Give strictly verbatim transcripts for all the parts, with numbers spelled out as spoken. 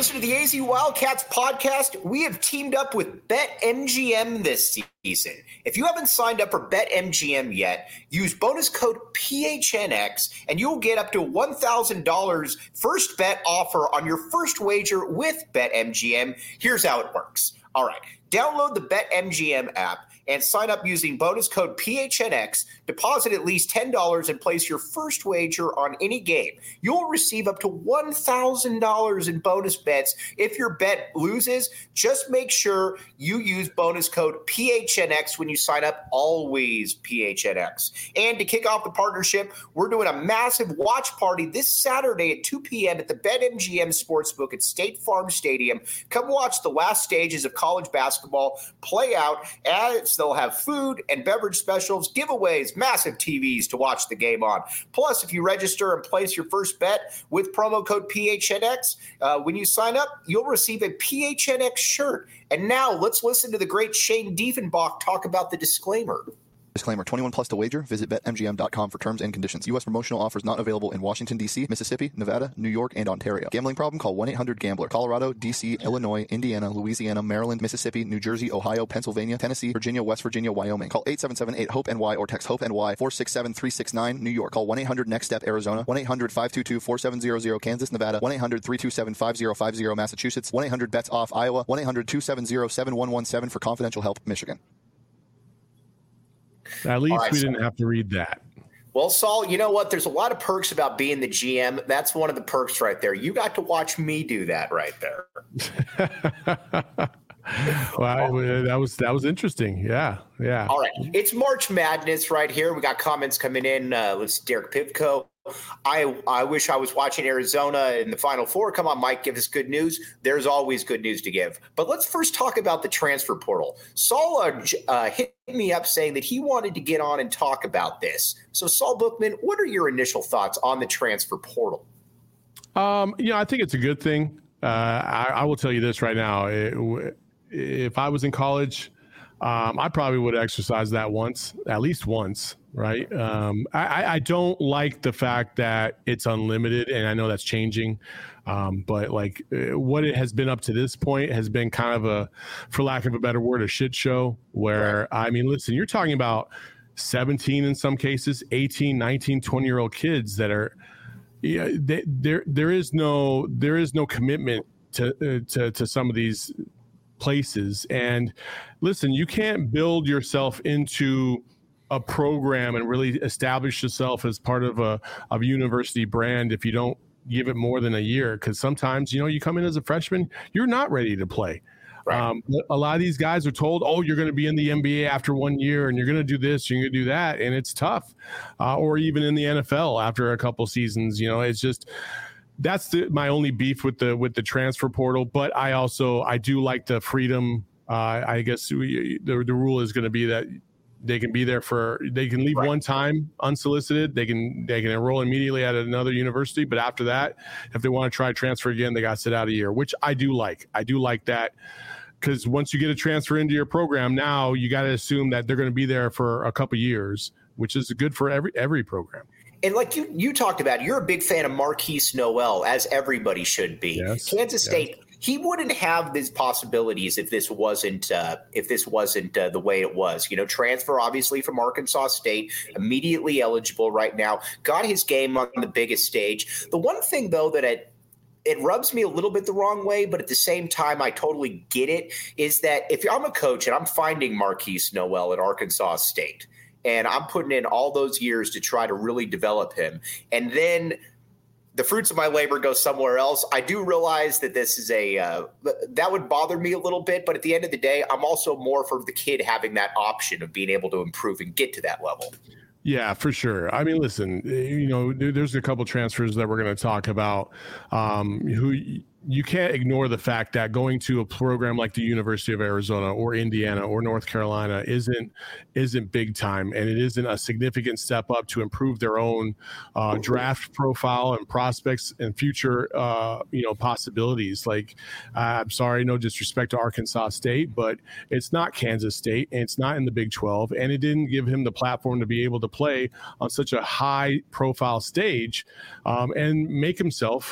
listening to the A Z Wildcats podcast. We have teamed up with BetMGM this season. If you haven't signed up for BetMGM yet, use bonus code P H N X and you'll get up to one thousand dollars first bet offer on your first wager with BetMGM. Here's how it works. All right, download the BetMGM app and sign up using bonus code P H N X. Deposit at least ten dollars and place your first wager on any game. You'll receive up to one thousand dollars in bonus bets if your bet loses. Just make sure you use bonus code P H N X when you sign up. Always P H N X. And to kick off the partnership, we're doing a massive watch party this Saturday at two p.m. at the BetMGM Sportsbook at State Farm Stadium. Come watch the last stages of college basketball play out as they'll have food and beverage specials, giveaways, massive T Vs to watch the game on. Plus, if you register and place your first bet with promo code P H N X, uh, when you sign up, you'll receive a P H N X shirt. And now let's listen to the great Shane Diefenbach talk about the disclaimer. Disclaimer, twenty-one plus to wager. Visit Bet M G M dot com for terms and conditions. U S promotional offers not available in Washington, D C, Mississippi, Nevada, New York, and Ontario. Gambling problem? Call one eight hundred gambler. Colorado, D C, Illinois, Indiana, Louisiana, Maryland, Mississippi, New Jersey, Ohio, Pennsylvania, Tennessee, Virginia, West Virginia, Wyoming. Call eight seven seven eight hope N Y or text HOPE-NY four six seven three six nine. New York. Call one eight hundred next step Arizona. one eight hundred five two two four seven zero zero. Kansas, Nevada. one eight hundred three two seven five zero five zero. Massachusetts. one eight hundred bets off Iowa. one eight hundred two seven zero seven one one seven for confidential help, Michigan. At least right, we so, didn't have to read that. Well, Saul, you know what? There's a lot of perks about being the G M. That's one of the perks right there. You got to watch me do that right there. Well, that was that was interesting. Yeah, yeah. All right. It's March Madness right here. We got comments coming in. Uh, let's see, Derek Pivko. I I wish I was watching Arizona in the Final Four. Come on, Mike, give us good news. There's always good news to give. But let's first talk about the transfer portal. Saul uh, uh, hit me up saying that he wanted to get on and talk about this. So, Saul Bookman, what are your initial thoughts on the transfer portal? Um, you know, I think it's a good thing. Uh, I, I will tell you this right now. It, if I was in college, um, I probably would exercise that once, at least once. Right. Um, I, I don't like the fact that it's unlimited, and I know that's changing. Um, but like what it has been up to this point has been kind of a, for lack of a better word, a shit show where, right. I mean, listen, you're talking about seventeen in some cases, eighteen, nineteen, twenty year old kids that are, yeah, they, there, there is no, there is no commitment to, uh, to, to some of these places. And listen, you can't build yourself into a program and really establish yourself as part of a of a university brand if you don't give it more than a year. Because sometimes, you know, you come in as a freshman, you're not ready to play. Right. Um, a lot of these guys are told, oh, you're going to be in the N B A after one year and you're going to do this, you're going to do that. And it's tough. Uh, or even in the N F L after a couple seasons, you know, it's just, that's the, my only beef with the, with the transfer portal. But I also, I do like the freedom. Uh, I guess we, the, the rule is going to be that they can be there for, they can leave right. one time unsolicited. They can, they can enroll immediately at another university. But after that, if they want to try transfer again, they got to sit out a year, which I do like. I do like that because once you get a transfer into your program, now you got to assume that they're going to be there for a couple years, which is good for every, every program. And like you, you talked about, you're a big fan of Marquise Noel, as everybody should be. Yes. Kansas State, yes. He wouldn't have these possibilities if this wasn't uh, if this wasn't uh, the way it was. You know, transfer obviously from Arkansas State, immediately eligible right now, got his game on the biggest stage. The one thing though that it it rubs me a little bit the wrong way, but at the same time I totally get it, is that if I'm a coach and I'm finding Marquise Noel at Arkansas State, and I'm putting in all those years to try to really develop him, and then the fruits of my labor go somewhere else, I do realize that this is a uh, – that would bother me a little bit. But at the end of the day, I'm also more for the kid having that option of being able to improve and get to that level. Yeah, for sure. I mean, listen, you know, there's a couple transfers that we're going to talk about um, who – you can't ignore the fact that going to a program like the University of Arizona or Indiana or North Carolina isn't isn't big time, and it isn't a significant step up to improve their own uh, draft profile and prospects and future uh, you know possibilities. Like, uh, I'm sorry, no disrespect to Arkansas State, but it's not Kansas State, and it's not in the Big twelve, and it didn't give him the platform to be able to play on such a high profile stage um, and make himself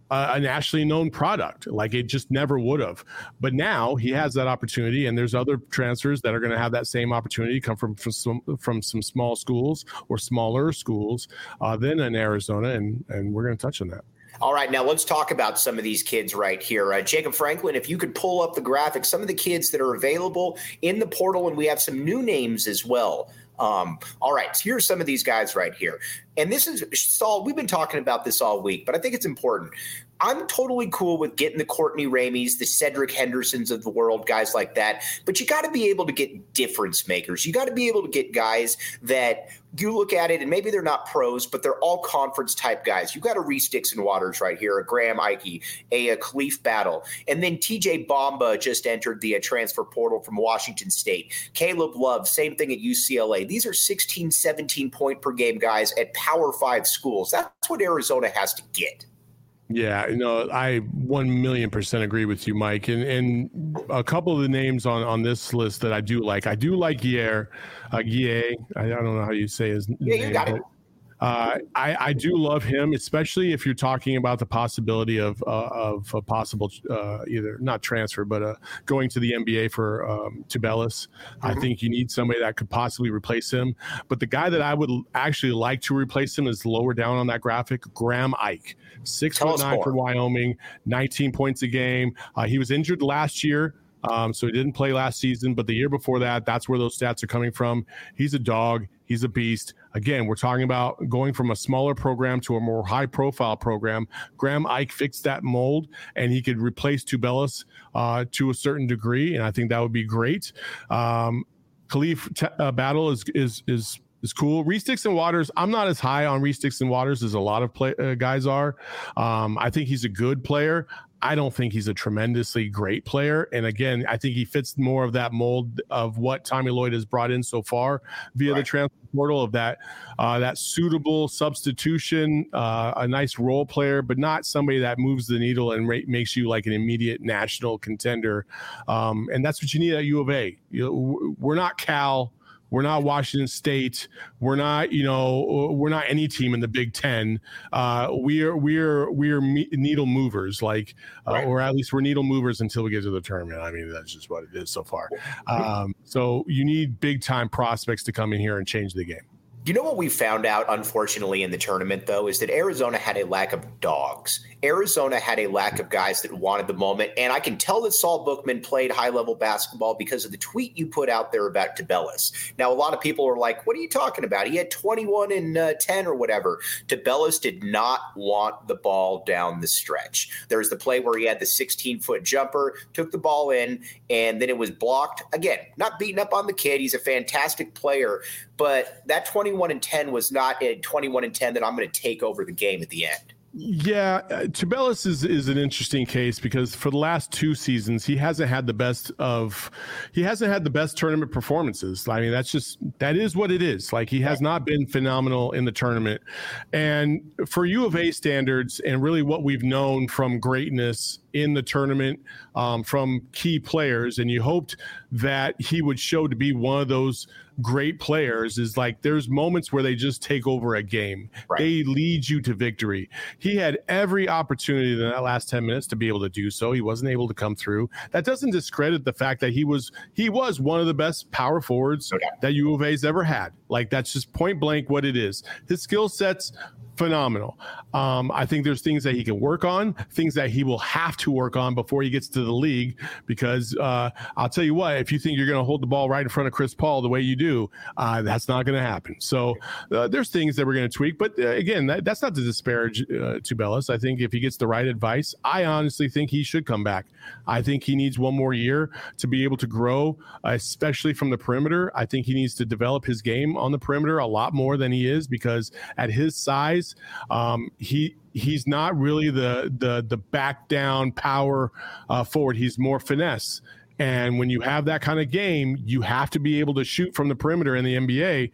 a nationally known product. Like it just never would have. But now he has that opportunity, and there's other transfers that are going to have that same opportunity, come from from some, from some small schools or smaller schools uh, than in Arizona, and and we're going to touch on that. All right, now let's talk about some of these kids right here. Uh, Jacob Franklin, if you could pull up the graphics, some of the kids that are available in the portal, and we have some new names as well. Um, all right, so here's some of these guys right here. And this is, Saul, we've been talking about this all week, but I think it's important. I'm totally cool with getting the Courtney Ramies, the Cedric Hendersons of the world, guys like that. But you got to be able to get difference makers. You got to be able to get guys that you look at it and maybe they're not pros, but they're all conference type guys. You got a Reese Dixon Waters right here, a Graham Ike, a, a Khalif Battle. And then T J Bamba just entered the uh, transfer portal from Washington State. Caleb Love, same thing at U C L A. These are sixteen, seventeen point per game guys at Power Five schools. That's what Arizona has to get. Yeah, you know, I one million percent agree with you, Mike. And and a couple of the names on, on this list that I do like. I do like Guier, uh, Guier. I, I don't know how you say his yeah, name. You got it. Uh, I, I do love him, especially if you're talking about the possibility of uh, of a possible uh, either not transfer, but uh, going to the N B A for um, Tubelis. Mm-hmm. I think you need somebody that could possibly replace him. But the guy that I would actually like to replace him is lower down on that graphic, Graham Ike, six foot nine for Wyoming, nineteen points a game. Uh, he was injured last year. Um, so he didn't play last season, but the year before that, that's where those stats are coming from. He's a dog. He's a beast. Again, we're talking about going from a smaller program to a more high-profile program. Graham Ike fixed that mold, and he could replace Tubelis uh, to a certain degree, and I think that would be great. Um, Khalif t- uh, Battle is is is is cool. Reese Dixon Waters, I'm not as high on Reese Dixon Waters as a lot of play, uh, guys are. Um, I think he's a good player. I don't think he's a tremendously great player. And again, I think he fits more of that mold of what Tommy Lloyd has brought in so far via right. the transfer portal of that uh, that suitable substitution, uh, a nice role player, but not somebody that moves the needle and ra- makes you like an immediate national contender. Um, and that's what you need at U of A. You know, we're not Cal. We're not Washington State. We're not, you know, we're not any team in the Big Ten. Uh, we're we're we're me- needle movers, like, uh, right. or at least we're needle movers until we get to the tournament. I mean, that's just what it is so far. Um, so you need big time prospects to come in here and change the game. You know what we found out, unfortunately, in the tournament, though, is that Arizona had a lack of dogs. Arizona had a lack of guys that wanted the moment. And I can tell that Saul Bookman played high-level basketball because of the tweet you put out there about Tubelis. Now, a lot of people are like, what are you talking about? He had twenty-one and uh, ten or whatever. Tubelis did not want the ball down the stretch. There was the play where he had the sixteen-foot jumper, took the ball in, and then it was blocked. Again, not beating up on the kid. He's a fantastic player. But that twenty-one and ten was not a twenty-one and ten that I'm going to take over the game at the end. Yeah, uh, Tubelis is is an interesting case because for the last two seasons he hasn't had the best of he hasn't had the best tournament performances. I mean, that's just that is what it is. Like, he has not been phenomenal in the tournament. And for U of A standards and really what we've known from greatness in the tournament um, from key players, and you hoped that he would show to be one of those great players, is like there's moments where they just take over a game. Right. They lead you to victory. He had every opportunity in that last ten minutes to be able to do so. He wasn't able to come through. That doesn't discredit the fact that he was he was one of the best power forwards okay. that U of A's ever had. Like, that's just point blank what it is. His skill sets, phenomenal. Um, I think there's things that he can work on, things that he will have to work on before he gets to the league, because uh, I'll tell you what, if you think you're going to hold the ball right in front of Chris Paul the way you do, uh, that's not going to happen. So uh, there's things that we're going to tweak. But uh, again, that, that's not to disparage uh, Tubelis. I think if he gets the right advice, I honestly think he should come back. I think he needs one more year to be able to grow, uh, especially from the perimeter. I think he needs to develop his game on the perimeter a lot more than he is, because at his size, um, he he's not really the the the back down power uh, forward. He's more finesse. And when you have that kind of game, you have to be able to shoot from the perimeter in the N B A.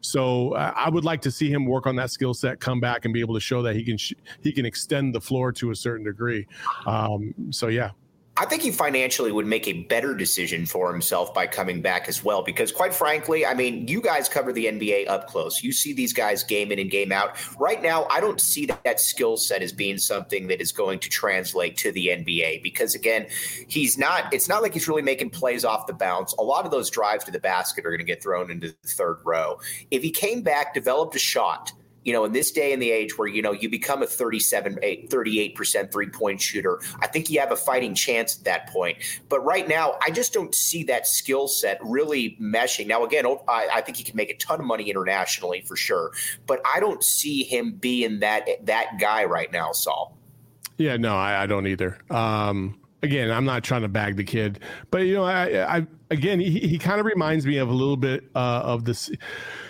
So uh, I would like to see him work on that skill set, come back, and be able to show that he can sh- he can extend the floor to a certain degree. Um, so yeah. I think he financially would make a better decision for himself by coming back as well, because quite frankly, I mean, you guys cover the N B A up close. You see these guys game in and game out. Right now, I don't see that, that skill set as being something that is going to translate to the N B A because, again, he's not – it's not like he's really making plays off the bounce. A lot of those drives to the basket are going to get thrown into the third row. If he came back, developed a shot – you know, in this day and the age where, you know, you become a thirty-seven, thirty-eight percent three-point shooter, I think you have a fighting chance at that point. But right now, I just don't see that skill set really meshing. Now, again, I, I think he can make a ton of money internationally for sure, but I don't see him being that that guy right now, Saul. Yeah, no, I, I don't either. Um, again, I'm not trying to bag the kid, but, you know, I, I again, he, he kind of reminds me of a little bit uh, of this –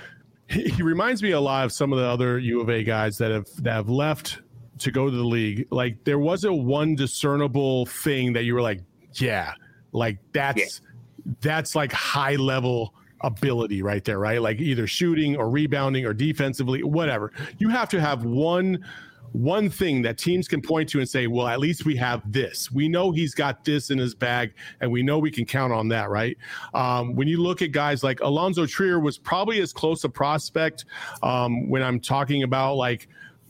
he reminds me a lot of some of the other U of A guys that have that have left to go to the league. Like there wasn't one discernible thing that you were like, yeah, like that's yeah. that's like high level ability right there, right? Like either shooting or rebounding or defensively, whatever. You have to have one one thing that teams can point to and say, well, at least we have this. We know he's got this in his bag, and we know we can count on that, right? Um, when you look at guys like Alonzo Trier was probably as close a prospect um, when I'm talking about like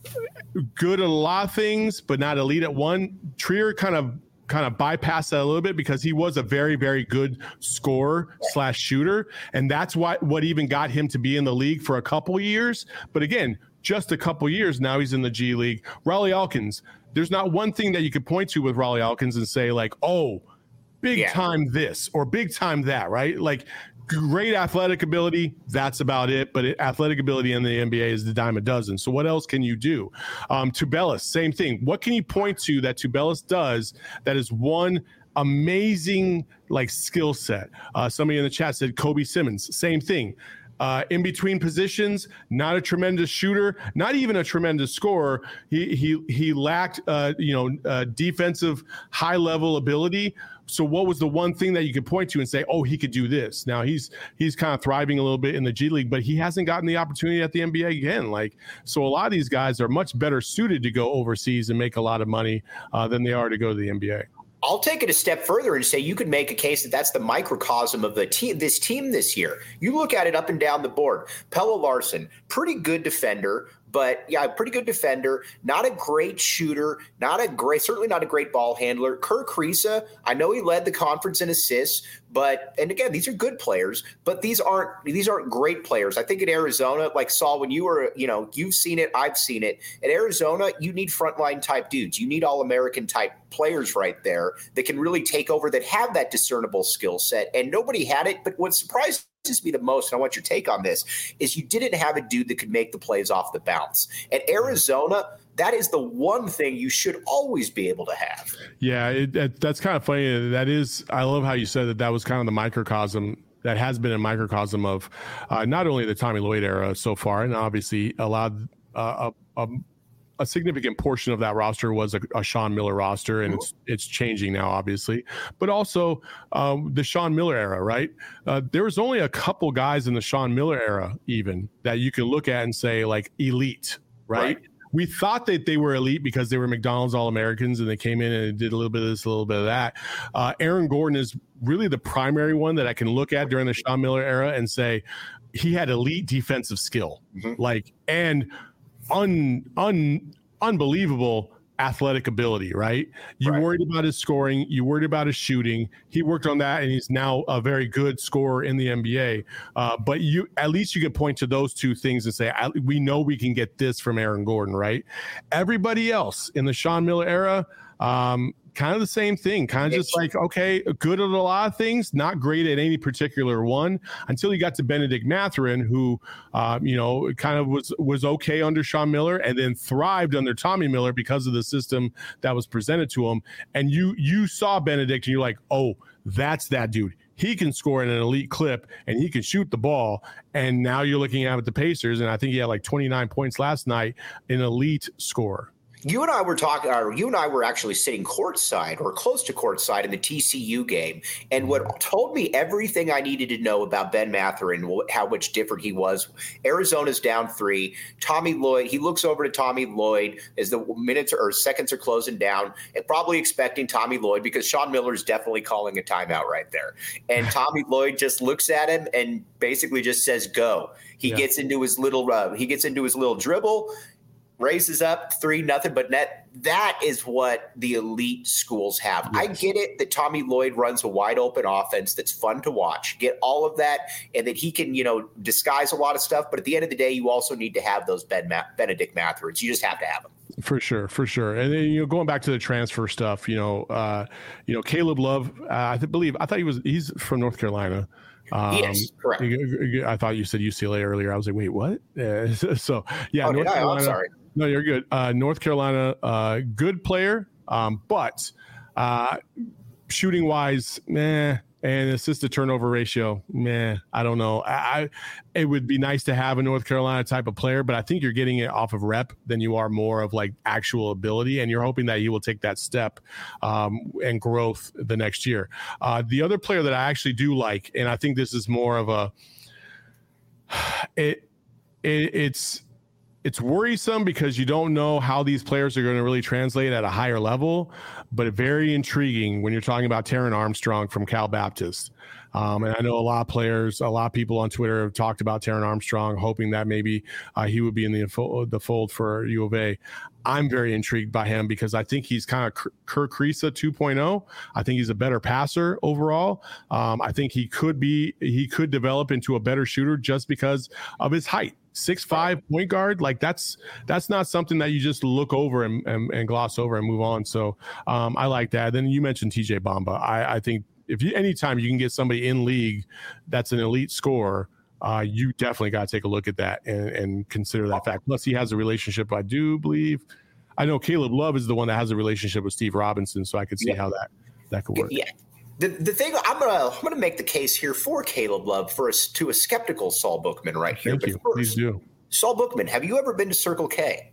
good at a lot of things, but not elite at one. Trier kind of kind of bypassed that a little bit because he was a very, very good scorer slash shooter. And that's why what even got him to be in the league for a couple years. But again, just a couple years now he's in the G League. Rawle Alkins, there's not one thing that you could point to with Rawle Alkins and say like, oh, big yeah. time this or big time that, right? Like great athletic ability, that's about it. But it, athletic ability in the N B A is the dime a dozen. So what else can you do? Um, Tubelis, same thing. What can you point to that Tubelis does that is one amazing like skill set? Uh, somebody in the chat said Kobe Simmons, same thing. Uh, in between positions, not a tremendous shooter, not even a tremendous scorer. He he he lacked, uh, you know, uh, defensive high level ability. So what was the one thing that you could point to and say, oh, he could do this? Now he's he's kind of thriving a little bit in the G League, but he hasn't gotten the opportunity at the N B A again. Like, so a lot of these guys are much better suited to go overseas and make a lot of money uh, than they are to go to the N B A. I'll take it a step further and say you could make a case that that's the microcosm of the team, this team this year. You look at it up and down the board. Pelle Larsson, pretty good defender, but yeah, pretty good defender, not a great shooter, not a great, certainly not a great ball handler. Kerr Kriisa, I know he led the conference in assists, but, and again, these are good players, but these aren't, these aren't great players. I think in Arizona, like Saul, when you were, you know, you've seen it, I've seen it. At Arizona, you need frontline type dudes. You need All-American type players right there that can really take over, that have that discernible skill set. And nobody had it. But what surprised me the most, and I want your take on this, is you didn't have a dude that could make the plays off the bounce. At Arizona, that is the one thing you should always be able to have. Yeah, it, it, that's kind of funny. That is, I love how you said that that was kind of the microcosm, that has been a microcosm of uh, not only the Tommy Lloyd era so far, and obviously allowed uh, a, a a significant portion of that roster was a, a Sean Miller roster, and it's it's changing now, obviously. But also um, the Sean Miller era, right? Uh, there was only a couple guys in the Sean Miller era, even that you can look at and say like elite, right? right. We thought that they were elite because they were McDonald's All-Americans and they came in and did a little bit of this, a little bit of that. Uh, Aaron Gordon is really the primary one that I can look at during the Sean Miller era and say he had elite defensive skill, mm-hmm. like and un, un unbelievable athletic ability, right? You right. worried about his scoring, you worried about his shooting. He worked on that, and he's now a very good scorer in the N B A. Uh, but you, at least you can point to those two things and say, I, we know we can get this from Aaron Gordon, right? Everybody else in the Sean Miller era, um, kind of the same thing, kind of just like, okay, good at a lot of things, not great at any particular one, until you got to Benedict Mathurin, who, um, you know, kind of was was okay under Sean Miller and then thrived under Tommy Miller because of the system that was presented to him. And you you saw Benedict and you're like, oh, that's that dude. He can score in an elite clip and he can shoot the ball. And now you're looking at the Pacers, and I think he had like twenty-nine points last night, an elite scorer. You and I were talking, or you and I were actually sitting courtside or close to courtside in the T C U game. And what told me everything I needed to know about Ben Mathurin, how much different he was. Arizona's down three. Tommy Lloyd, he looks over to Tommy Lloyd as the minutes or seconds are closing down, and probably expecting Tommy Lloyd, because Sean Miller is definitely calling a timeout right there. And Tommy Lloyd just looks at him and basically just says, go. He yeah. gets into his little, uh, he gets into his little dribble, raises up three nothing but net. That is what the elite schools have. Yes. I get it that Tommy Lloyd runs a wide open offense that's fun to watch. Get all of that, and that he can, you know, disguise a lot of stuff. But at the end of the day, you also need to have those Ben Ma- Benedict Mathurin. You just have to have them. For sure, for sure. And then, you know, going back to the transfer stuff, you know, uh, you know, Caleb Love, uh, I believe, I thought he was, he's from North Carolina. Um, yes, correct. I thought you said U C L A earlier. I was like, wait, what? Uh, so, yeah. Oh, North I? Carolina, I'm sorry. No, you're good. Uh, North Carolina, uh, good player, um, but uh, shooting wise, meh, and assist to turnover ratio, meh. I don't know. I, I it would be nice to have a North Carolina type of player, but I think you're getting it off of rep than you are more of like actual ability, and you're hoping that he will take that step um, and growth the next year. Uh, the other player that I actually do like, and I think this is more of a it, it it's. It's worrisome because you don't know how these players are going to really translate at a higher level, but very intriguing when you're talking about Taron Armstrong from Cal Baptist. Um, and I know a lot of players, a lot of people on Twitter have talked about Taron Armstrong, hoping that maybe uh, he would be in the, the fold for U of A. I'm very intrigued by him because I think he's kind of Kerr Kriisa two point oh. I think he's a better passer overall. Um, I think he could be, he could develop into a better shooter just because of his height. six five point guard, like that's that's not something that you just look over and, and, and gloss over and move on. So um, I like that. Then you mentioned T J Bamba. I, I think if you anytime you can get somebody in league that's an elite scorer, uh, you definitely got to take a look at that and, and consider that fact. Plus, he has a relationship, I do believe. I know Caleb Love is the one that has a relationship with Steve Robinson, so I could see yeah. how that that could work. Yeah. The the thing I'm gonna I'm gonna make the case here for Caleb Love for a, to a skeptical Saul Bookman right here. Thank but you. First, Please do. Saul Bookman, have you ever been to Circle K?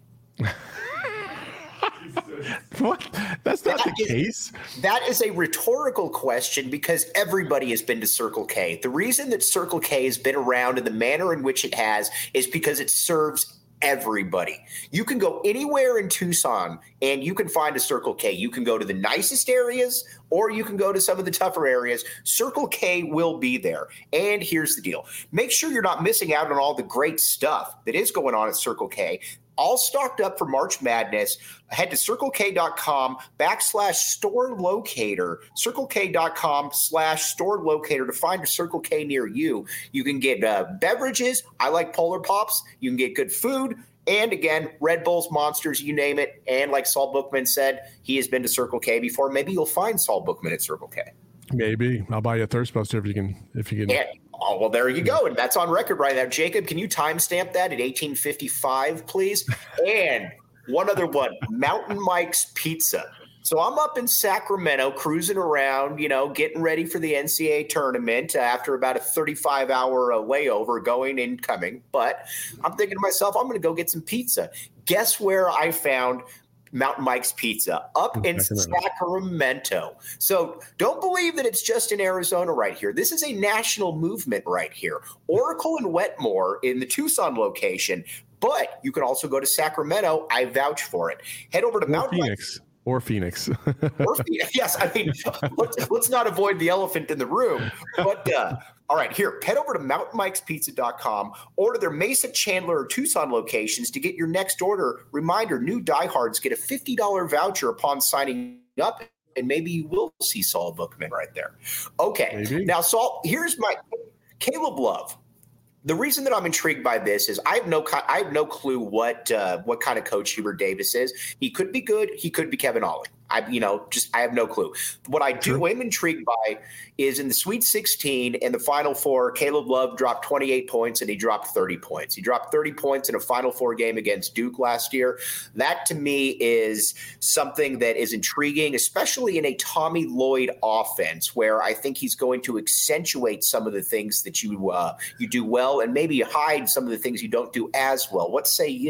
What? That's not that the is, case. That is a rhetorical question because everybody has been to Circle K. The reason that Circle K has been around in the manner in which it has is because it serves everybody. You can go anywhere in Tucson and you can find a Circle K. You can go to the nicest areas or you can go to some of the tougher areas. Circle K will be there. And here's the deal. Make sure you're not missing out on all the great stuff that is going on at Circle K. All stocked up for March Madness. Head to circlek.com backslash store locator, circlek.com slash store locator to find a Circle K near you. You can get uh, beverages. I like Polar Pops. You can get good food. And again, Red Bulls, Monsters, you name it. And like Saul Bookman said, he has been to Circle K before. Maybe you'll find Saul Bookman at Circle K. Maybe. I'll buy you a thirst buster if you can. If you can. Yeah. Oh, well, there you go. And that's on record right now. Jacob, can you timestamp that at eighteen fifty-five, please? And one other one, Mountain Mike's Pizza. So I'm up in Sacramento cruising around, you know, getting ready for the N C double A tournament after about a thirty-five hour uh, layover going and coming. But I'm thinking to myself, I'm going to go get some pizza. Guess where I found Mountain Mike's Pizza? Up in Sacramento. So don't believe that it's just in Arizona right here. This is a national movement right here. Oracle and Wetmore in the Tucson location, but you can also go to Sacramento. I vouch for it. Head over to or Mountain Phoenix. Mike's. Or Phoenix. or Phoenix. Yes, I mean, let's, let's not avoid the elephant in the room. But uh, all right, here, head over to mountain mikes pizza dot com, order their Mesa, Chandler, or Tucson locations to get your next order. Reminder, new diehards get a fifty dollars voucher upon signing up, and maybe you will see Saul Bookman right there. Okay, maybe. Now, Saul, here's my Caleb Love. The reason that I'm intrigued by this is I have no I have no clue what uh, what kind of coach Hubert Davis is. He could be good. He could be Kevin Ollie. I you know just I have no clue. What I do am intrigued by is in the Sweet sixteen and the Final Four, Caleb Love dropped twenty-eight points and he dropped thirty points. He dropped thirty points in a Final Four game against Duke last year. That to me is something that is intriguing, especially in a Tommy Lloyd offense where I think he's going to accentuate some of the things that you uh, you do well and maybe hide some of the things you don't do as well. What say you?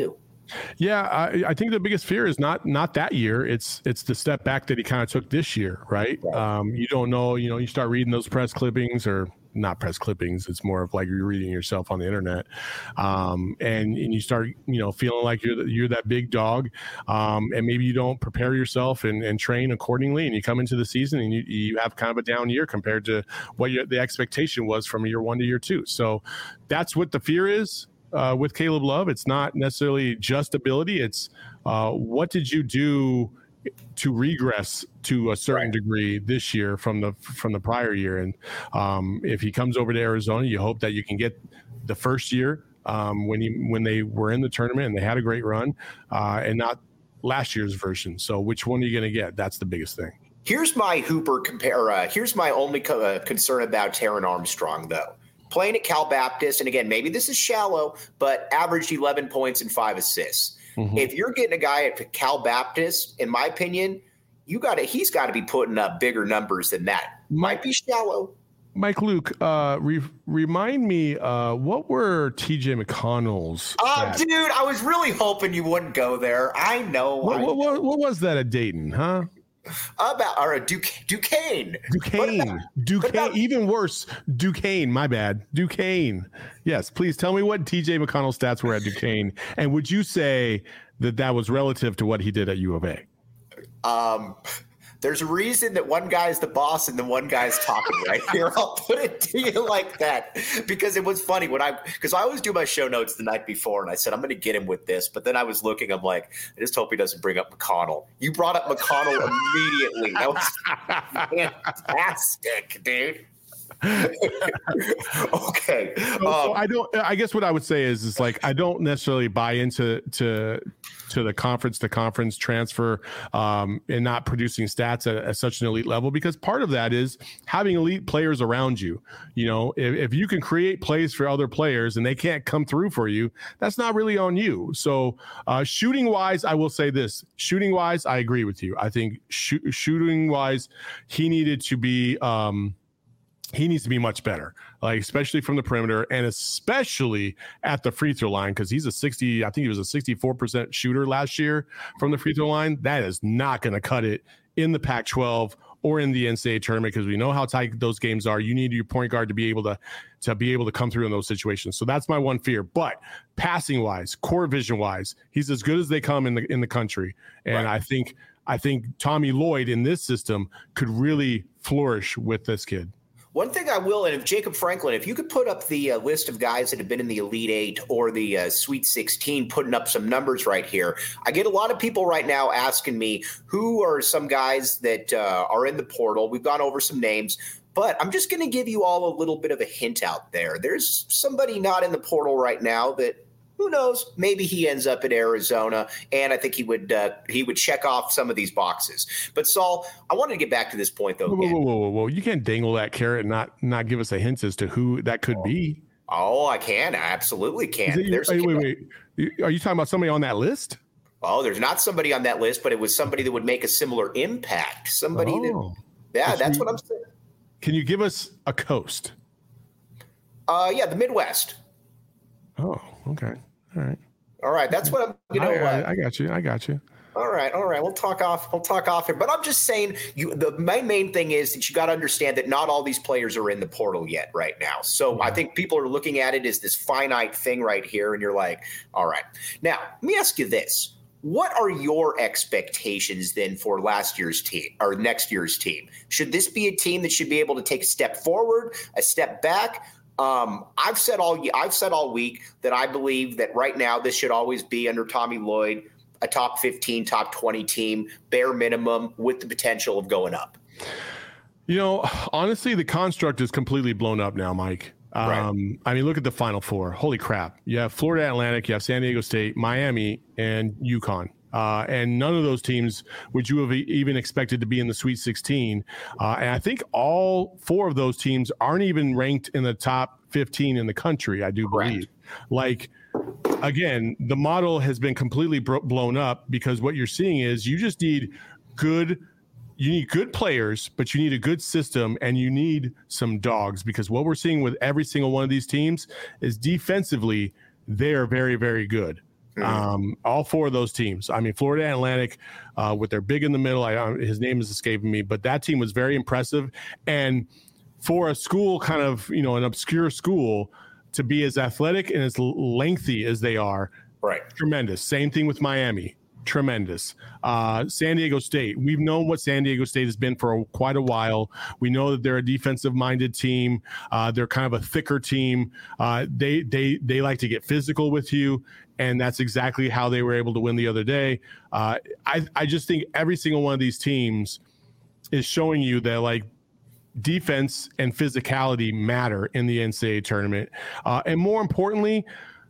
Yeah, I, I think the biggest fear is not not that year. It's it's the step back that he kind of took this year, right? right. Um, you don't know. You know, you start reading those press clippings or not press clippings. It's more of like you're reading yourself on the internet, um, and and you start you know feeling like you're the, you're that big dog, um, and maybe you don't prepare yourself and, and train accordingly, and you come into the season and you you have kind of a down year compared to what your, the expectation was from year one to year two. So that's what the fear is. Uh, with Caleb Love, it's not necessarily just ability. It's uh, what did you do to regress to a certain right. degree this year from the from the prior year? And um, if he comes over to Arizona, you hope that you can get the first year um, when he when they were in the tournament and they had a great run, uh, and not last year's version. So which one are you going to get? That's the biggest thing. Here's my Hooper compare. Uh, here's my only co- uh, concern about Taron Armstrong, though. Playing at Cal Baptist, and again, maybe this is shallow, but averaged eleven points and five assists. Mm-hmm. If you're getting a guy at Cal Baptist, in my opinion, you got to he's got to be putting up bigger numbers than that. Might be shallow. Mike Luke, uh, re- remind me, uh, what were T J McConnell's? Oh, uh, dude, I was really hoping you wouldn't go there. I know. What, I what, what, what was that at Dayton, huh? About or a Duque, Duquesne. Duquesne. About, Duquesne. about, even worse, Duquesne. My bad. Duquesne. Yes, please tell me what T J McConnell's stats were at Duquesne, and would you say that that was relative to what he did at U of A? Um, there's a reason that one guy's the boss and the one guy's talking right here. I'll put it to you like that because it was funny when I because I always do my show notes the night before, and I said I'm going to get him with this, but then I was looking. I'm like, I just hope he doesn't bring up McConnell. You brought up McConnell immediately. That was fantastic, dude. Okay. So, um, so I don't. I guess what I would say is, is like I don't necessarily buy into to to the conference to conference transfer um, and not producing stats at, at such an elite level, because part of that is having elite players around you. You know, if, if you can create plays for other players and they can't come through for you, that's not really on you. So uh, shooting wise, I will say this: shooting wise, I agree with you. I think sh- shooting wise, he needed to be. Um, He needs to be much better, like especially from the perimeter and especially at the free throw line, because he's a sixty. I think he was a sixty-four percent shooter last year from the free throw line. That is not going to cut it in the Pac twelve or in the N C double A tournament, because we know how tight those games are. You need your point guard to be able to to be able to come through in those situations. So that's my one fear. But passing wise, court vision wise, he's as good as they come in the in the country. And right. I think I think Tommy Lloyd in this system could really flourish with this kid. One thing I will, and if Jacob Franklin, if you could put up the uh, list of guys that have been in the Elite Eight or the uh, Sweet sixteen, putting up some numbers right here. I get a lot of people right now asking me who are some guys that uh, are in the portal. We've gone over some names, but I'm just going to give you all a little bit of a hint out there. There's somebody not in the portal right now that, who knows, maybe he ends up at Arizona, and I think he would uh, he would check off some of these boxes. But, Saul, I wanted to get back to this point, though. Whoa, whoa, whoa, whoa, whoa. You can't dangle that carrot and not, not give us a hint as to who that could oh. be. Oh, I can. I absolutely can. It, There's wait, wait, wait. Are you talking about somebody on that list? Oh, there's not somebody on that list, but it was somebody that would make a similar impact. Somebody oh. that – yeah, that's you, what I'm saying. Can you give us a coast? Uh, yeah, the Midwest. Oh, okay. All right. All right, that's what I'm. You know, I, uh, I got you. I got you. All right, all right. We'll talk off. We'll talk off here. But I'm just saying, you. The my main thing is that you got to understand that not all these players are in the portal yet, right now. So mm-hmm. I think people are looking at it as this finite thing right here, and you're like, all right. Now, let me ask you this: what are your expectations then for last year's team or next year's team? Should this be a team that should be able to take a step forward, a step back? Um, I've said all I've said all week that I believe that right now this should always be under Tommy Lloyd, a top fifteen, top twenty team, bare minimum, with the potential of going up. You know, honestly, the construct is completely blown up now, Mike. Um, right. I mean, look at the Final Four. Holy crap. You have Florida Atlantic, you have San Diego State, Miami, and UConn. Uh, and none of those teams would you have even expected to be in the Sweet sixteen. Uh, and I think all four of those teams aren't even ranked in the top fifteen in the country, I do believe. Right. Like, again, the model has been completely bro- blown up because what you're seeing is you just need good – you need good players, but you need a good system, and you need some dogs, because what we're seeing with every single one of these teams is defensively they're very, very good. Mm-hmm. Um, all four of those teams. I mean, Florida Atlantic, uh, with their big in the middle. I, I, his name is escaping me, but that team was very impressive. And for a school, kind of, you know, an obscure school, to be as athletic and as lengthy as they are, right? Tremendous. Same thing with Miami. Tremendous. Uh, San Diego State. We've known what San Diego State has been for a, quite a while. We know that they're a defensive-minded team. Uh, they're kind of a thicker team. Uh, they they they like to get physical with you, and that's exactly how they were able to win the other day. Uh, I I just think every single one of these teams is showing you that, like, defense and physicality matter in the N C double A tournament, uh, and more importantly,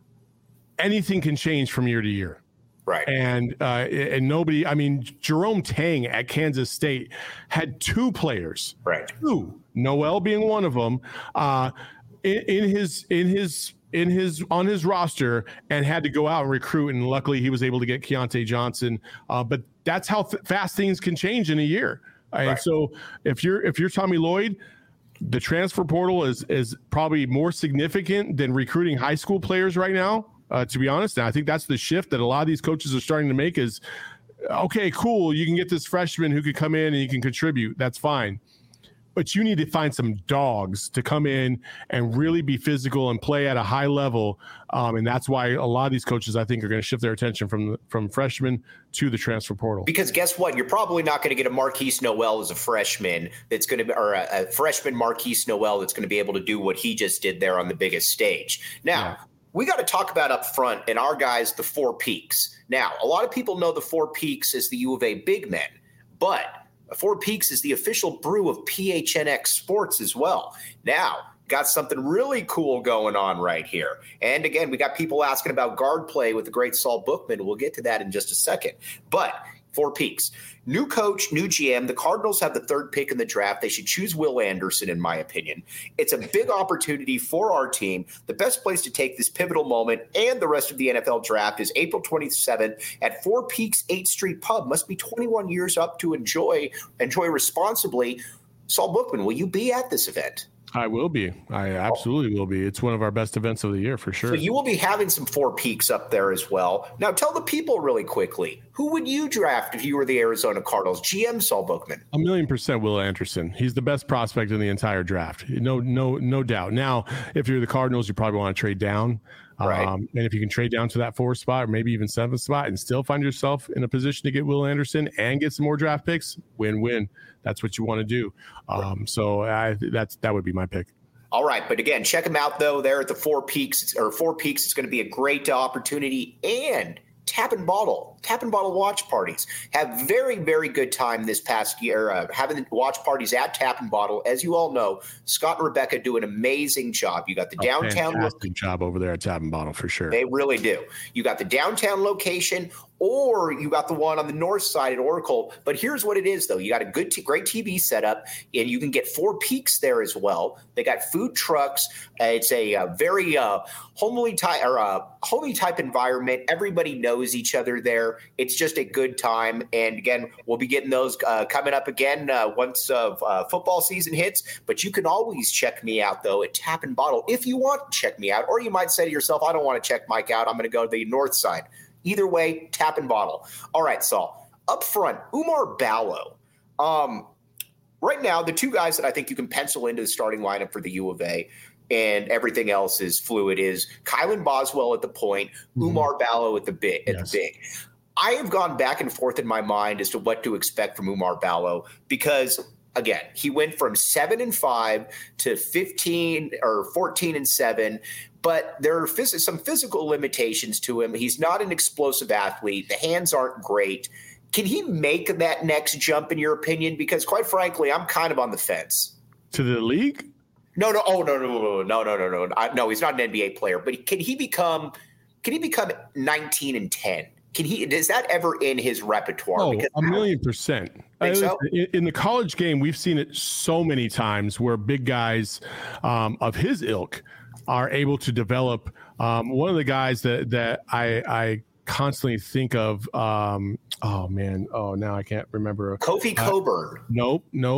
anything can change from year to year. Right. And uh, and nobody, I mean, Jerome Tang at Kansas State had two players, right? Two, Noel being one of them, uh, in, in his in his in his on his roster, and had to go out and recruit. And luckily, he was able to get Keontae Johnson. Uh, but that's how th- fast things can change in a year. Right. And so, if you're if you're Tommy Lloyd, the transfer portal is is probably more significant than recruiting high school players right now. Uh, to be honest, and I think that's the shift that a lot of these coaches are starting to make is, okay, cool, you can get this freshman who could come in and he can contribute. That's fine. But you need to find some dogs to come in and really be physical and play at a high level. Um, and that's why a lot of these coaches, I think, are going to shift their attention from from freshmen to the transfer portal. Because guess what? You're probably not going to get a Marquise Noel as a freshman that's going to be, or a, a freshman Marquise Noel that's going to be able to do what he just did there on the biggest stage. Now, yeah. we got to talk about up front and our guys, the Four Peaks. Now, a lot of people know the Four Peaks as the U of A big men, but Four Peaks is the official brew of P H N X Sports as well. Now, got something really cool going on right here. And again, we got people asking about guard play with the great Saul Bookman. We'll get to that in just a second. But Four Peaks, new coach, new G M. The Cardinals have the third pick in the draft. They should choose Will Anderson, in my opinion. It's a big opportunity for our team. The best place to take this pivotal moment and the rest of the N F L draft is April twenty-seventh at Four Peaks eighth Street Pub. Must be twenty-one years up to enjoy, enjoy responsibly. Saul Bookman, will you be at this event? I will be. I absolutely will be. It's one of our best events of the year for sure. So you will be having some Four Peaks up there as well. Now tell the people really quickly, who would you draft if you were the Arizona Cardinals? G M Saul Bookman. A million percent Will Anderson. He's the best prospect in the entire draft. No, no, no doubt. Now, if you're the Cardinals, you probably want to trade down. Right. Um, and if you can trade down to that fourth spot or maybe even seventh spot and still find yourself in a position to get Will Anderson and get some more draft picks, win-win. That's what you want to do. Um, right. So I, that's that would be my pick. All right. But again, check them out, though. There at the Four Peaks or Four Peaks. It's going to be a great opportunity. And Tap and Bottle, Tap and Bottle watch parties. Have very, very good time this past year uh, having watch parties at Tap and Bottle. As you all know, Scott and Rebecca do an amazing job. You got the a downtown fantastic lo- job over there at Tap and Bottle for sure. They really do. You got the downtown location, or you got the one on the north side at Oracle. But here's what it is, though. You got a good, t- great T V setup, and you can get Four Peaks there as well. They got food trucks. Uh, it's a, a very uh, homely type or uh, homely type environment. Everybody knows each other there. It's just a good time. And again, we'll be getting those uh, coming up again uh, once uh, uh, football season hits. But you can always check me out, though, at Tap and Bottle if you want to check me out. Or you might say to yourself, I don't want to check Mike out. I'm going to go to the north side. Either way, Tap and Bottle. All right, Saul. Up front, Oumar Ballo. Um, right now, the two guys that I think you can pencil into the starting lineup for the U of A, and everything else is fluid, is Kylan Boswell at the point, mm-hmm. Oumar Ballo at the big. At yes. the big. I have gone back and forth in my mind as to what to expect from Oumar Ballo because, again, he went from seven and five to fifteen or fourteen and seven. But there are phys- some physical limitations to him. He's not an explosive athlete. The hands aren't great. Can he make that next jump, in your opinion? Because, quite frankly, I'm kind of on the fence. To the league? No, no, oh no, no, no, no, no, no, no, no. I, no, he's not an N B A player. But can he become? Can he become nineteen and ten? Can he? Is that ever in his repertoire? Oh, because a million percent. Think so? In the college game, we've seen it so many times where big guys um, of his ilk are able to develop. Um, one of the guys that that I, I constantly think of, um, oh man, oh now I can't remember. Kofi uh, Coburn. Nope, nope.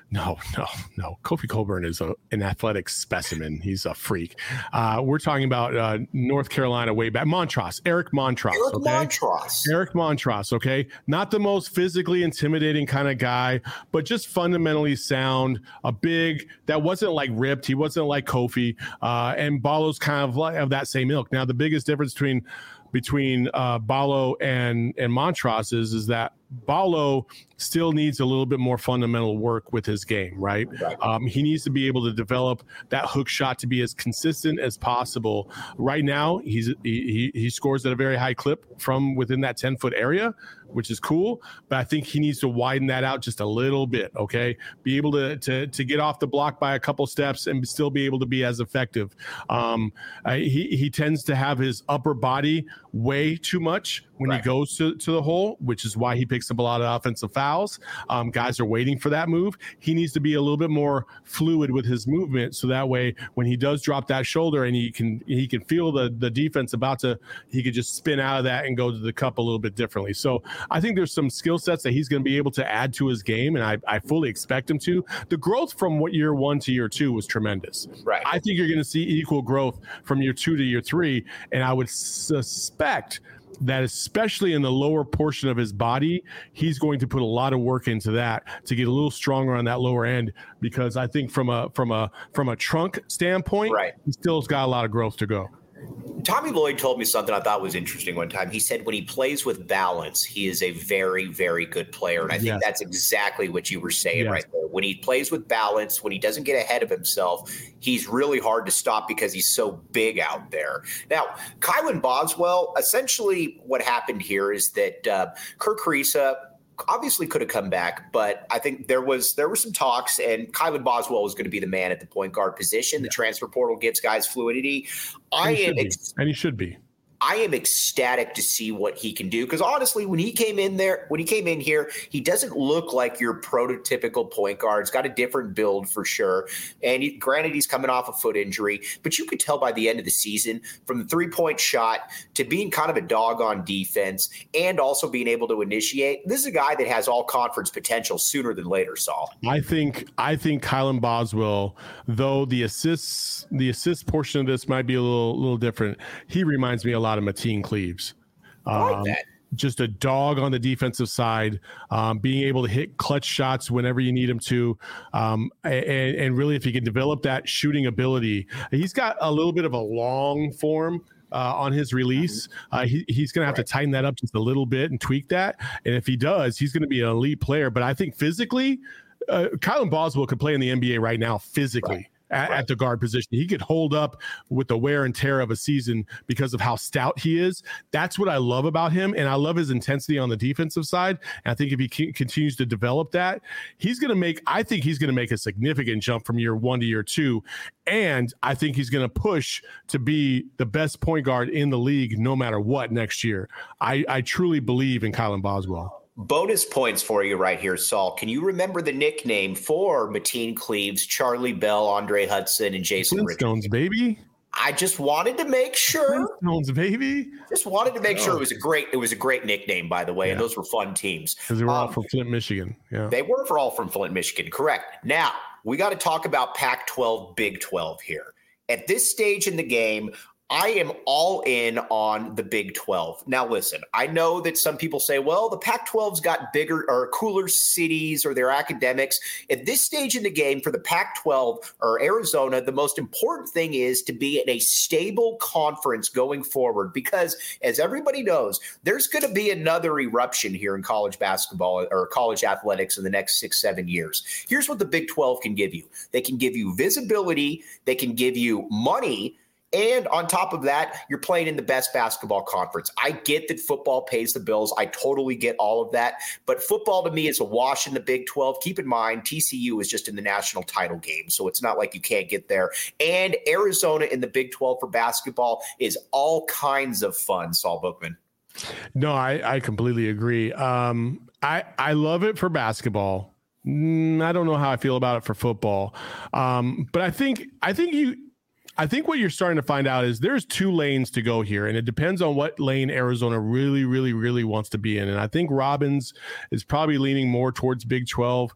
No, no, no. Kofi Cockburn is a, an athletic specimen. He's a freak. Uh, we're talking about uh, North Carolina way back. Montross, Eric Montross. Eric okay? Montross. Eric Montross, okay? Not the most physically intimidating kind of guy, but just fundamentally sound, a big, that wasn't like ripped. He wasn't like Kofi. Uh, and Ballo's kind of like of that same ilk. Now, the biggest difference between between uh, Ballo and, and Montross is, is that Ballo still needs a little bit more fundamental work with his game, right? Right. Um, he needs to be able to develop that hook shot to be as consistent as possible. Right now, he's he, he scores at a very high clip from within that ten-foot area, which is cool, but I think he needs to widen that out just a little bit, okay? Be able to to, to get off the block by a couple steps and still be able to be as effective. Um, uh, he, he tends to have his upper body way too much when Right. he goes to, to the hole, which is why he picks up a lot of offensive fouls. Um, guys are waiting for that move. He needs to be a little bit more fluid with his movement, so that way when he does drop that shoulder and he can he can feel the the defense about to, he could just spin out of that and go to the cup a little bit differently. So I think there's some skill sets that he's going to be able to add to his game, and I, I fully expect him to. The growth from what year one to year two was tremendous. Right. I think you're going to see equal growth from year two to year three, and I would suspect that especially in the lower portion of his body, he's going to put a lot of work into that to get a little stronger on that lower end, because I think from a from a from a trunk standpoint, Right. he still's got a lot of growth to go. Tommy Lloyd told me something I thought was interesting one time. He said when he plays with balance, he is a very, very good player. And I think Yes. that's exactly what you were saying Yes. right there. When he plays with balance, when he doesn't get ahead of himself, he's really hard to stop because he's so big out there. Now, Kylan Boswell, essentially what happened here is that uh, Kirk Ariza obviously could have come back, but I think there was there were some talks, and Kylan Boswell was going to be the man at the point guard position. The transfer portal gives guys fluidity. I And he am should be. ex- And he should be. I am ecstatic to see what he can do, because honestly, when he came in there, when he came in here, he doesn't look like your prototypical point guard. He's got a different build for sure. And he, granted, he's coming off a foot injury, but you could tell by the end of the season, from the three-point shot to being kind of a dog on defense and also being able to initiate, this is a guy that has all conference potential sooner than later, Saul. I think I think Kylan Boswell, though the assists the assist portion of this might be a little little different, he reminds me a lot of Mateen Cleaves. I like Um, that. Just a dog on the defensive side, um, being able to hit clutch shots whenever you need him to. Um, and, and really, if he can develop that shooting ability, he's got a little bit of a long form uh, on his release. Uh, he, he's going to have Right. to tighten that up just a little bit and tweak that. And if he does, he's going to be an elite player. But I think physically, uh, Kylan Boswell could play in the N B A right now physically. Right. At, Right. at the guard position. He could hold up with the wear and tear of a season because of how stout he is. That's what I love about him, and I love his intensity on the defensive side. And I think if he c- continues to develop that, he's going to make, I think he's going to make a significant jump from year one to year two. And I think he's going to push to be the best point guard in the league no matter what next year. I, I truly believe in Kylan Boswell. Bonus points for you right here, Saul. Can you remember the nickname for Mateen Cleaves, Charlie Bell, Andre Hudson, and Jason Richardson? Flintstones, baby. I just wanted to make sure. Flintstones, baby. Just wanted to make sure it was a great. It was a great nickname, by the way, and Yeah. those were fun teams. Because they were all Um, from Flint, Michigan. Yeah. They were for all from Flint, Michigan. Correct. Now we got to talk about Pac twelve, Big twelve here. At this stage in the game, I am all in on the Big twelve. Now, listen, I know that some people say, well, the Pac twelve's got bigger or cooler cities or their academics. At this stage in the game for the Pac twelve or Arizona, the most important thing is to be in a stable conference going forward, because as everybody knows, there's going to be another eruption here in college basketball or college athletics in the next six, seven years. Here's what the Big twelve can give you. They can give you visibility. They can give you money. And on top of that, you're playing in the best basketball conference. I get that football pays the bills. I totally get all of that. But football to me is a wash in the Big twelve. Keep in mind, T C U is just in the national title game, so it's not like you can't get there. And Arizona in the Big twelve for basketball is all kinds of fun, Saul Bookman. No, I, I completely agree. Um, I, I love it for basketball. Mm, I don't know how I feel about it for football. Um, but I think I think you I think what you're starting to find out is there's two lanes to go here, and it depends on what lane Arizona really, really, really wants to be in. And I think Robbins is probably leaning more towards Big twelve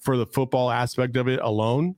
for the football aspect of it alone.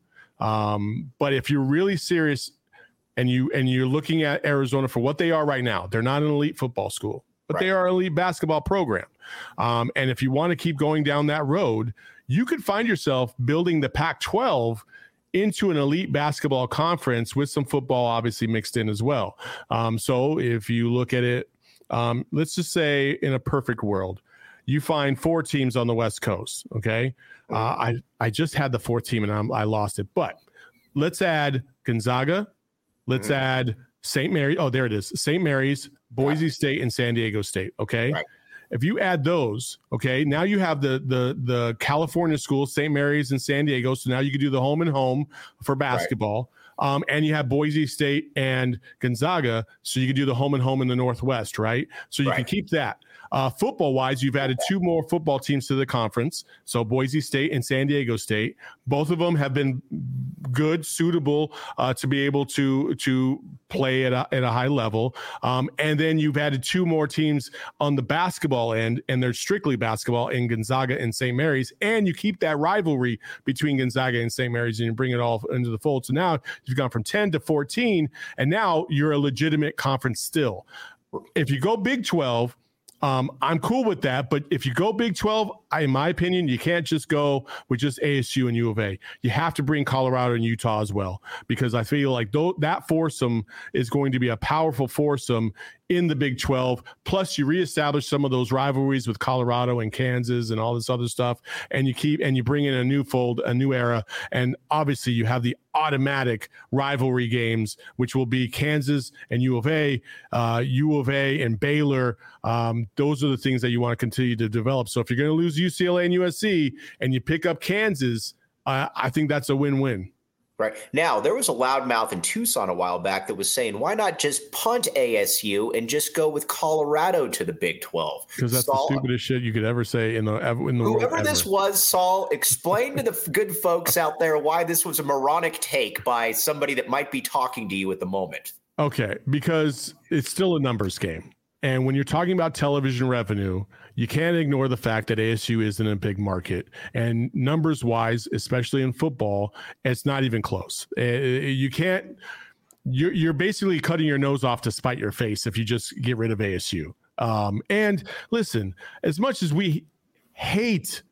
Um, but if you're really serious and you and you're looking at Arizona for what they are right now, they're not an elite football school, but right. they are an elite basketball program. Um, and if you want to keep going down that road, you could find yourself building the Pac twelve into an elite basketball conference with some football obviously mixed in as well. Um, so if you look at it, um, let's just say in a perfect world, you find four teams on the West Coast. Okay. Uh, I, I just had the fourth team and I'm, I lost it, but let's add Gonzaga. Let's mm-hmm. add Saint Mary. Oh, there it is. Saint Mary's, Boise right. State, and San Diego State. Okay. Right. If you add those, okay, now you have the the the California schools, Saint Mary's and San Diego. So now you can do the home and home for basketball. Right. Um, and you have Boise State and Gonzaga, so you can do the home and home in the Northwest, right? So you right. can keep that. Uh, football-wise, you've added two more football teams to the conference, so Boise State and San Diego State. Both of them have been good, suitable uh, to be able to to play at a, at a high level. Um, and then you've added two more teams on the basketball end, and they're strictly basketball in Gonzaga and Saint Mary's. And you keep that rivalry between Gonzaga and Saint Mary's, and you bring it all into the fold. So now you've gone from ten to fourteen, and now you're a legitimate conference still. If you go Big twelve, Um, I'm cool with that, but if you go Big twelve, I, in my opinion, you can't just go with just A S U and U of A. You have to bring Colorado and Utah as well, because I feel like th- that foursome is going to be a powerful foursome in the Big twelve. Plus, you reestablish some of those rivalries with Colorado and Kansas and all this other stuff, and you keep and you bring in a new fold, a new era, and obviously you have the automatic rivalry games, which will be Kansas and U of A, uh, U of A and Baylor. Um, those are the things that you want to continue to develop. So if you're going to lose U C L A and U S C and you pick up Kansas, uh, I think that's a win-win. Right. Now, there was a loudmouth in Tucson a while back that was saying, why not just punt A S U and just go with Colorado to the Big twelve? Because that's Saul, the stupidest shit you could ever say in the, in the whoever world. this ever. was, Saul, explain to the good folks out there why this was a moronic take by somebody that might be talking to you at the moment. Okay, because it's still a numbers game. And when you're talking about television revenue, you can't ignore the fact that A S U isn't a big market. And numbers wise, especially in football, it's not even close. You can't, you're, you're basically cutting your nose off to spite your face if you just get rid of A S U. Um, and listen, as much as we hate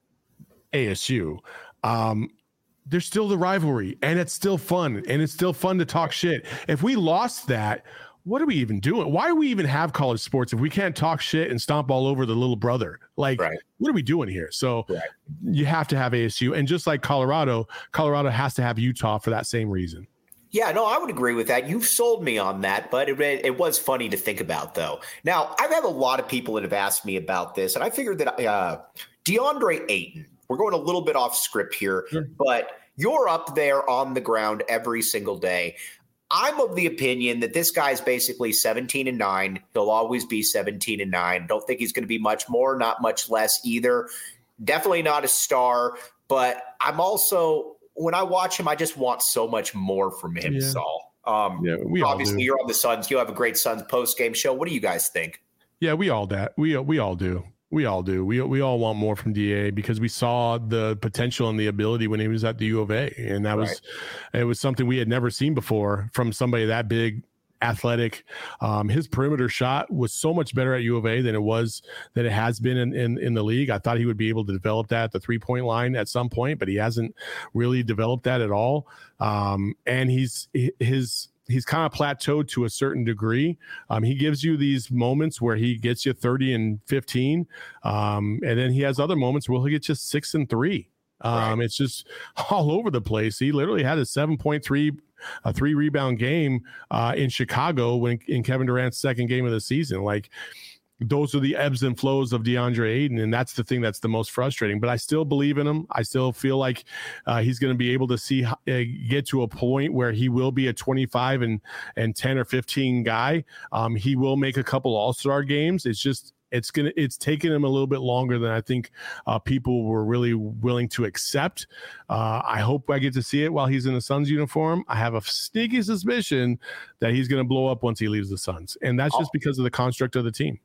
A S U, um, there's still the rivalry, and it's still fun, and it's still fun to talk shit. If we lost that, what are we even doing? Why do we even have college sports if we can't talk shit and stomp all over the little brother? Like, right. what are we doing here? So right. you have to have A S U. And just like Colorado, Colorado has to have Utah for that same reason. Yeah, no, I would agree with that. You've sold me on that, but it, it was funny to think about, though. Now, I've had a lot of people that have asked me about this, and I figured that uh, DeAndre Ayton, we're going a little bit off script here, sure. but you're up there on the ground every single day. I'm of the opinion that this guy's basically seventeen and nine. He'll always be seventeen and nine. Don't think he's going to be much more, not much less either. Definitely not a star, but I'm also, when I watch him, I just want so much more from him, yeah. Saul. Um, yeah, we obviously you're on the Suns. You have a great Suns post-game show. What do you guys think? Yeah, we all that. We we all do. We all do. We we all want more from D A because we saw the potential and the ability when he was at the U of A, and that was right. it was something we had never seen before from somebody that big, athletic. Um, his perimeter shot was so much better at U of A than it was that it has been in, in in the league. I thought he would be able to develop that at the three point line at some point, but he hasn't really developed that at all. Um, and he's his. He's kind of plateaued to a certain degree. Um, he gives you these moments where he gets you thirty and fifteen. Um, and then he has other moments where he'll get you six and three. Um, right. It's just all over the place. He literally had a seven point three, a three rebound game uh, in Chicago when in Kevin Durant's second game of the season. Like, those are the ebbs and flows of DeAndre Ayton, and that's the thing that's the most frustrating. But I still believe in him. I still feel like uh, he's going to be able to see uh, get to a point where he will be a twenty-five and and ten or fifteen guy. Um, he will make a couple All-Star games. It's just it's gonna it's taken him a little bit longer than I think uh, people were really willing to accept. Uh, I hope I get to see it while he's in the Suns uniform. I have a sneaky suspicion that he's going to blow up once he leaves the Suns, and that's just because of the construct of the team.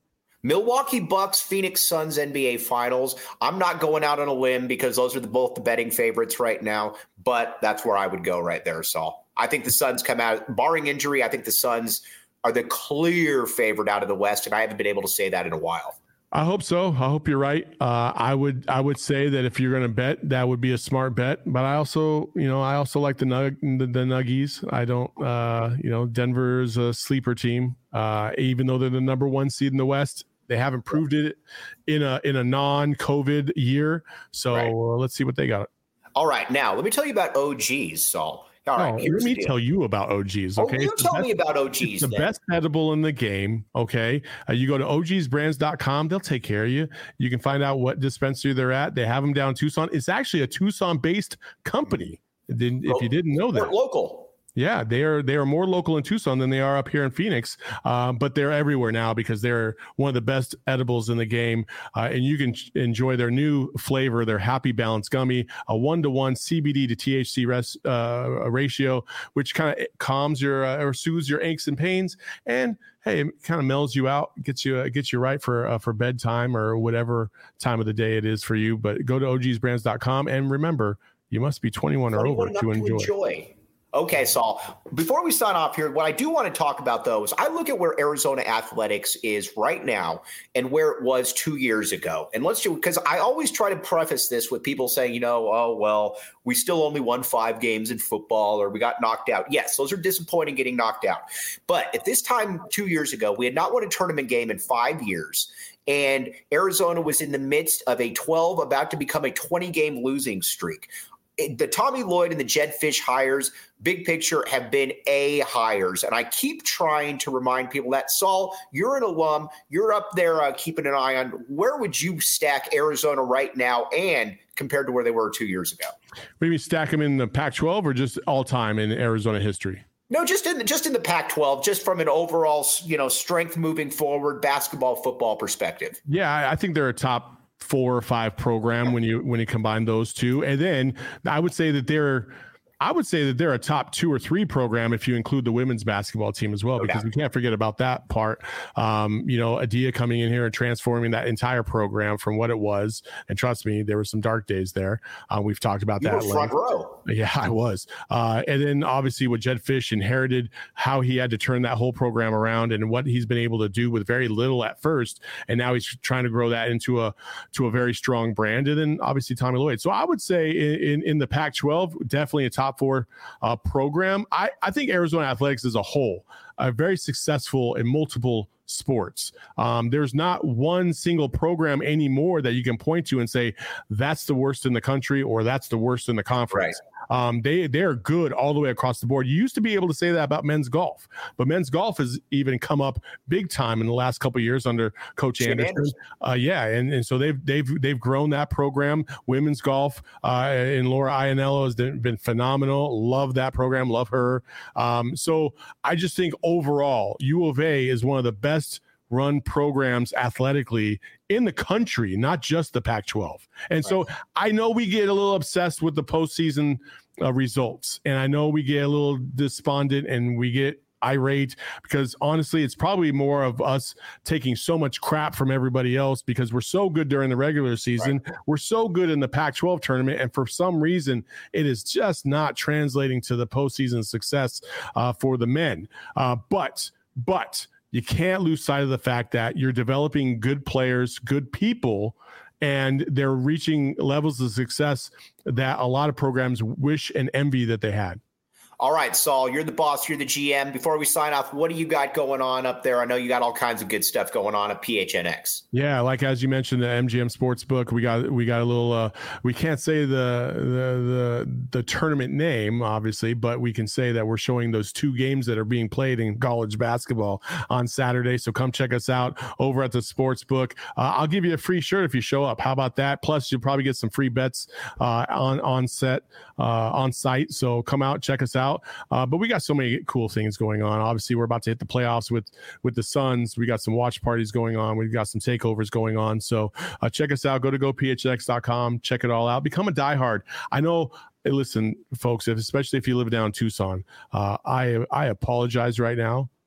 Milwaukee Bucks, Phoenix Suns, N B A Finals. I'm not going out on a limb because those are the, both the betting favorites right now, but that's where I would go right there, Saul. I think the Suns come out, barring injury, I think the Suns are the clear favorite out of the West, and I haven't been able to say that in a while. I hope so. I hope you're right. Uh, I would I would say that if you're going to bet, that would be a smart bet. But I also, you know, I also like the Nug the, the Nuggies. I don't, uh, you know, Denver's a sleeper team. Uh, even though they're the number one seed in the West, they haven't proved it in a in a non-COVID year. So right. uh, let's see what they got. All right, now let me tell you about O Gs, Saul. All right, oh, let me tell you about O Gs. Okay, oh, you tell best, me about O Gs. It's the then. best edible in the game. Okay, uh, you go to O Gs brands dot com. They'll take care of you. You can find out what dispensary they're at. They have them down in Tucson. It's actually a Tucson-based company. Didn't, if you didn't know that, local. Yeah, they are they are more local in Tucson than they are up here in Phoenix, uh, but they're everywhere now because they're one of the best edibles in the game, uh, and you can enjoy their new flavor, their Happy Balance Gummy, a one-to-one C B D to T H C res, uh, ratio, which kind of calms your uh, or soothes your aches and pains, and hey, it kind of mellows you out, gets you uh, gets you right for uh, for bedtime or whatever time of the day it is for you. But go to O Gs brands dot com and remember, you must be twenty-one or over to enjoy. To enjoy. Okay, Saul, before we sign off here, what I do want to talk about, though, is I look at where Arizona athletics is right now and where it was two years ago. And let's do, because I always try to preface this with people saying, you know, oh, well, we still only won five games in football or we got knocked out. Yes, those are disappointing getting knocked out. But at this time two years ago, we had not won a tournament game in five years. And Arizona was in the midst of a twelve, about to become a twenty-game losing streak. The Tommy Lloyd and the Jedd Fisch hires, big picture, have been A hires. And I keep trying to remind people that, Saul, you're an alum. You're up there uh, keeping an eye on where would you stack Arizona right now and compared to where they were two years ago? Maybe stack them in the Pac twelve or just all time in Arizona history? No, just in the, just in the Pac twelve, just from an overall, you know, strength moving forward, basketball, football perspective. Yeah, I think they're a top four or five program when you when you combine those two. And then I would say that they're I would say that they're a top two or three program if you include the women's basketball team as well, because okay. we can't forget about that part. Um, you know, Adia coming in here and transforming that entire program from what it was. And trust me, there were some dark days there. Uh, we've talked about you that. Were front row. Yeah, I was. Uh, and then obviously what Jedd Fisch inherited, how he had to turn that whole program around and what he's been able to do with very little at first. And now he's trying to grow that into a to a very strong brand. And then obviously Tommy Lloyd. So I would say in, in, in the Pac twelve, definitely a top four uh, program. I, I think Arizona athletics as a whole are very successful in multiple sports. Um, there's not one single program anymore that you can point to and say that's the worst in the country or that's the worst in the conference. Right. Um, they they're good all the way across the board. You used to be able to say that about men's golf, but men's golf has even come up big time in the last couple of years under Coach Jim Anderson. Anderson. Uh, yeah, and, and so they've they've they've grown that program. Women's golf uh, and Laura Ianello has been phenomenal. Love that program. Love her. Um, so I just think overall, U of A is one of the best run programs athletically in the country, not just the Pac twelve. And right. so I know we get a little obsessed with the postseason uh, results, and I know we get a little despondent and we get irate because honestly, it's probably more of us taking so much crap from everybody else because we're so good during the regular season. Right. We're so good in the Pac twelve tournament. And for some reason, it is just not translating to the postseason success uh, for the men. Uh, but, but, you can't lose sight of the fact that you're developing good players, good people, and they're reaching levels of success that a lot of programs wish and envy that they had. All right, Saul, you're the boss. You're the G M. Before we sign off, what do you got going on up there? I know you got all kinds of good stuff going on at P H N X. Yeah, like as you mentioned, the M G M Sportsbook. We got we got a little. Uh, we can't say the, the the the tournament name, obviously, but we can say that we're showing those two games that are being played in college basketball on Saturday. So come check us out over at the Sportsbook. Uh, I'll give you a free shirt if you show up. How about that? Plus, you'll probably get some free bets uh, on on set uh, on site. So come out, check us out. Uh, but we got so many cool things going on. Obviously, we're about to hit the playoffs with with the Suns. We got some watch parties going on. We've got some takeovers going on. So uh, check us out. Go to go P H X dot com. Check it all out. Become a diehard. I know. Hey, listen, folks, if, especially if you live down in Tucson, uh, I I apologize right now.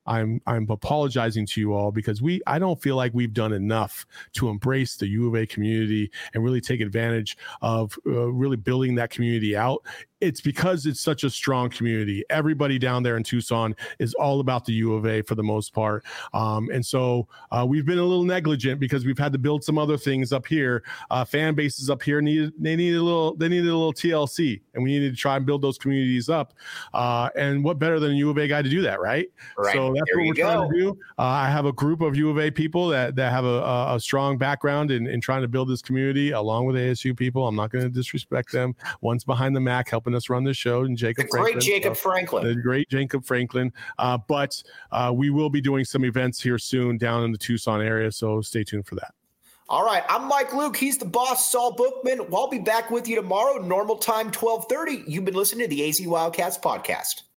I'm I'm apologizing to you all because we I don't feel like we've done enough to embrace the U of A community and really take advantage of uh, really building that community out. It's because it's such a strong community. Everybody down there in Tucson is all about the U of A for the most part. Um, and so uh, we've been a little negligent because we've had to build some other things up here. Uh, fan bases up here needed they needed a little they needed a little T L C, and we needed to try and build those communities up. Uh, and what better than a U of A guy to do that, right? Right. So that's there what we're go. trying to do. Uh, I have a group of U of A people that that have a, a, a strong background in, in trying to build this community along with A S U people. I'm not going to disrespect them. One's behind the Mac helping us run this show, and Jacob the Franklin. Great Jacob so, Franklin. The great Jacob Franklin. Uh, but uh, we will be doing some events here soon down in the Tucson area, so stay tuned for that. All right, I'm Mike Luke. He's the boss, Saul Bookman. I'll be back with you tomorrow, normal time, twelve thirty. You've been listening to the A Z Wildcats podcast.